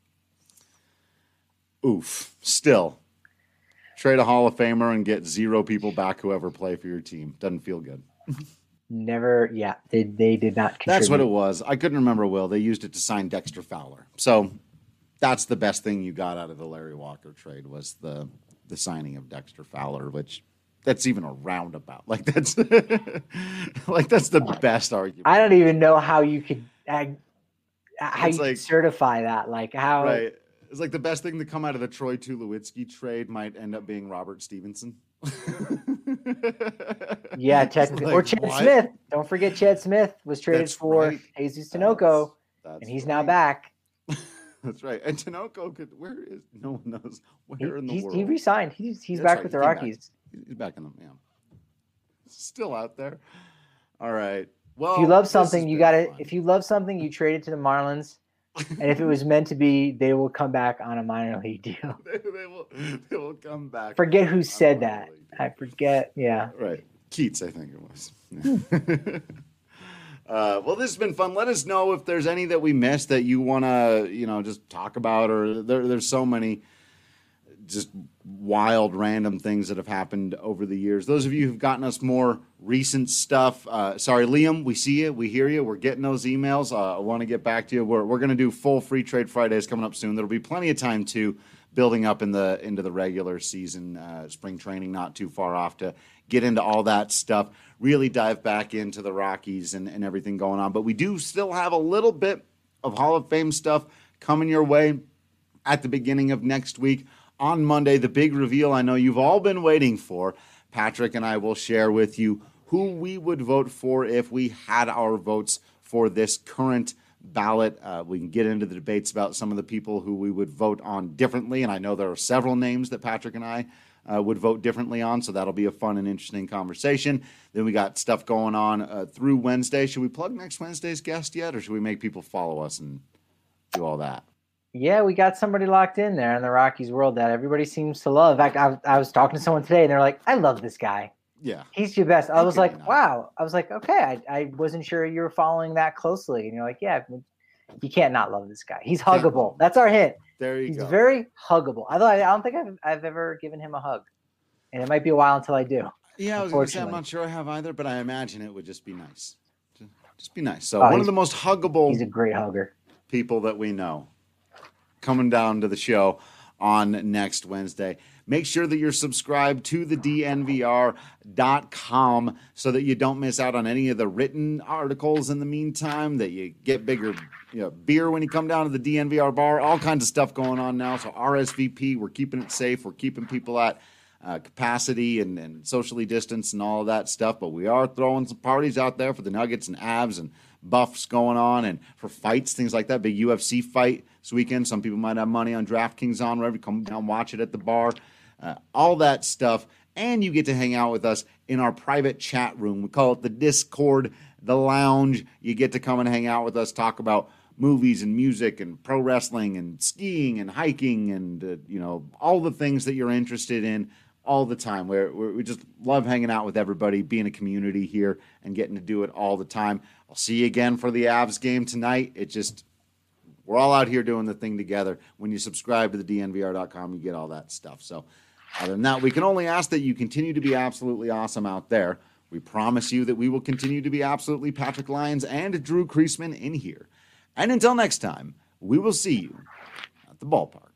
Speaker 5: oof. Still, trade a Hall of Famer and get zero people back who ever play for your team doesn't feel good.
Speaker 6: Never, yeah, they they did not contribute.
Speaker 5: That's what it was. I couldn't remember. Will they used it to sign Dexter Fowler? So that's the best thing you got out of the Larry Walker trade was the the signing of Dexter Fowler, which. That's even a roundabout. Like that's like that's the best argument.
Speaker 6: I don't even know how you could uh, how
Speaker 5: It's
Speaker 6: you
Speaker 5: like-
Speaker 6: could certify that. Like how
Speaker 5: Right. It's like the best thing to come out of the Troy Tulowitzki trade might end up being Robert Stevenson.
Speaker 6: Yeah,
Speaker 5: It's
Speaker 6: technically.
Speaker 5: like,
Speaker 6: or Chad
Speaker 5: what?
Speaker 6: Smith. Don't forget Chad Smith was traded
Speaker 5: That's
Speaker 6: for
Speaker 5: right.
Speaker 6: Jesus Tinoco,
Speaker 5: That's
Speaker 6: and he's now
Speaker 5: right.
Speaker 6: back.
Speaker 5: That's right. And Tinoco could where is no one knows
Speaker 6: He,
Speaker 5: where in the
Speaker 6: he's,
Speaker 5: world.
Speaker 6: he resigned. He's he's
Speaker 5: That's
Speaker 6: back
Speaker 5: right,
Speaker 6: with
Speaker 5: he
Speaker 6: the
Speaker 5: came back.
Speaker 6: Rockies.
Speaker 5: He's back in the yeah. Still out there. All right. Well,
Speaker 6: If you love
Speaker 5: this
Speaker 6: something,
Speaker 5: has
Speaker 6: you
Speaker 5: been
Speaker 6: got to
Speaker 5: fun.
Speaker 6: if you love something, you trade it to the Marlins. And if it was meant to be, they will come back on a minor league deal.
Speaker 5: they, they will they will come back.
Speaker 6: Forget who
Speaker 5: on
Speaker 6: said
Speaker 5: a
Speaker 6: that.
Speaker 5: minor league deal.
Speaker 6: I forget. Yeah.
Speaker 5: Right. Keats, I think it was. Yeah. uh, well, this has been fun. Let us know if there's any that we missed that you want to, you know, just talk about, or there, there's so many just wild, random things that have happened over the years. Those of you who've gotten us more recent stuff, uh, sorry, Liam, we see you, we hear you, we're getting those emails. Uh, I want to get back to you. We're we're going to do full Free Trade Fridays coming up soon. There'll be plenty of time to building up in the into the regular season, uh, spring training, not too far off to get into all that stuff. Really dive back into the Rockies and, and everything going on. But we do still have a little bit of Hall of Fame stuff coming your way at the beginning of next week. On Monday, the big reveal I know you've all been waiting for. Patrick and I will share with you who we would vote for if we had our votes for this current ballot. Uh, we can get into the debates about some of the people who we would vote on differently, and I know there are several names that Patrick and I uh, would vote differently on, so that'll be a fun and interesting conversation. Then we got stuff going on uh, through Wednesday. Should we plug next Wednesday's guest yet, or should we make people follow us and do all that?
Speaker 6: Yeah, we got somebody locked in there in the Rockies world that everybody seems to love. In fact, I, I was talking to someone today, and they're like, I love this guy.
Speaker 5: Yeah.
Speaker 6: He's your best. I was
Speaker 5: Okay,
Speaker 6: like,
Speaker 5: no.
Speaker 6: wow. I was like, okay, I, I wasn't sure you were following that closely. And you're like, yeah, you can't not love this guy. He's
Speaker 5: Can't
Speaker 6: huggable.
Speaker 5: love.
Speaker 6: That's our hint.
Speaker 5: There you
Speaker 6: He's
Speaker 5: go.
Speaker 6: very huggable. Although I, I don't think I've, I've ever given him a hug. And it might be a while until I do.
Speaker 5: Yeah, I was going to say, I'm
Speaker 6: unfortunately.
Speaker 5: not sure I have either, but I imagine it would just be nice. Just be nice. So
Speaker 6: Oh,
Speaker 5: one of
Speaker 6: he's-
Speaker 5: the most huggable
Speaker 6: He's a great hugger.
Speaker 5: people that we know coming down to the show on next Wednesday. Make sure that you're subscribed to the D N V R dot com so that you don't miss out on any of the written articles in the meantime, that you get bigger you know, beer when you come down to the D N V R bar, all kinds of stuff going on now. So R S V P, we're keeping it safe. We're keeping people at uh, capacity and, and socially distanced and all of that stuff. But we are throwing some parties out there for the Nuggets and Avs and Buffs going on, and for fights, things like that. Big U F C fight this weekend. Some people might have money on DraftKings on, wherever. Come down, watch it at the bar. Uh, all that stuff. And you get to hang out with us in our private chat room. We call it the Discord, the lounge. You get to come and hang out with us, talk about movies and music and pro wrestling and skiing and hiking and, uh, you know, all the things that you're interested in all the time. We're, we're, we just love hanging out with everybody, being a community here and getting to do it all the time. I'll see you again for the Avs game tonight. It just, we're all out here doing the thing together. When you subscribe to the D N V R dot com, you get all that stuff. So other than that, we can only ask that you continue to be absolutely awesome out there. We promise you that we will continue to be absolutely Patrick Lyons and Drew Creasman in here. And until next time, we will see you at the ballpark.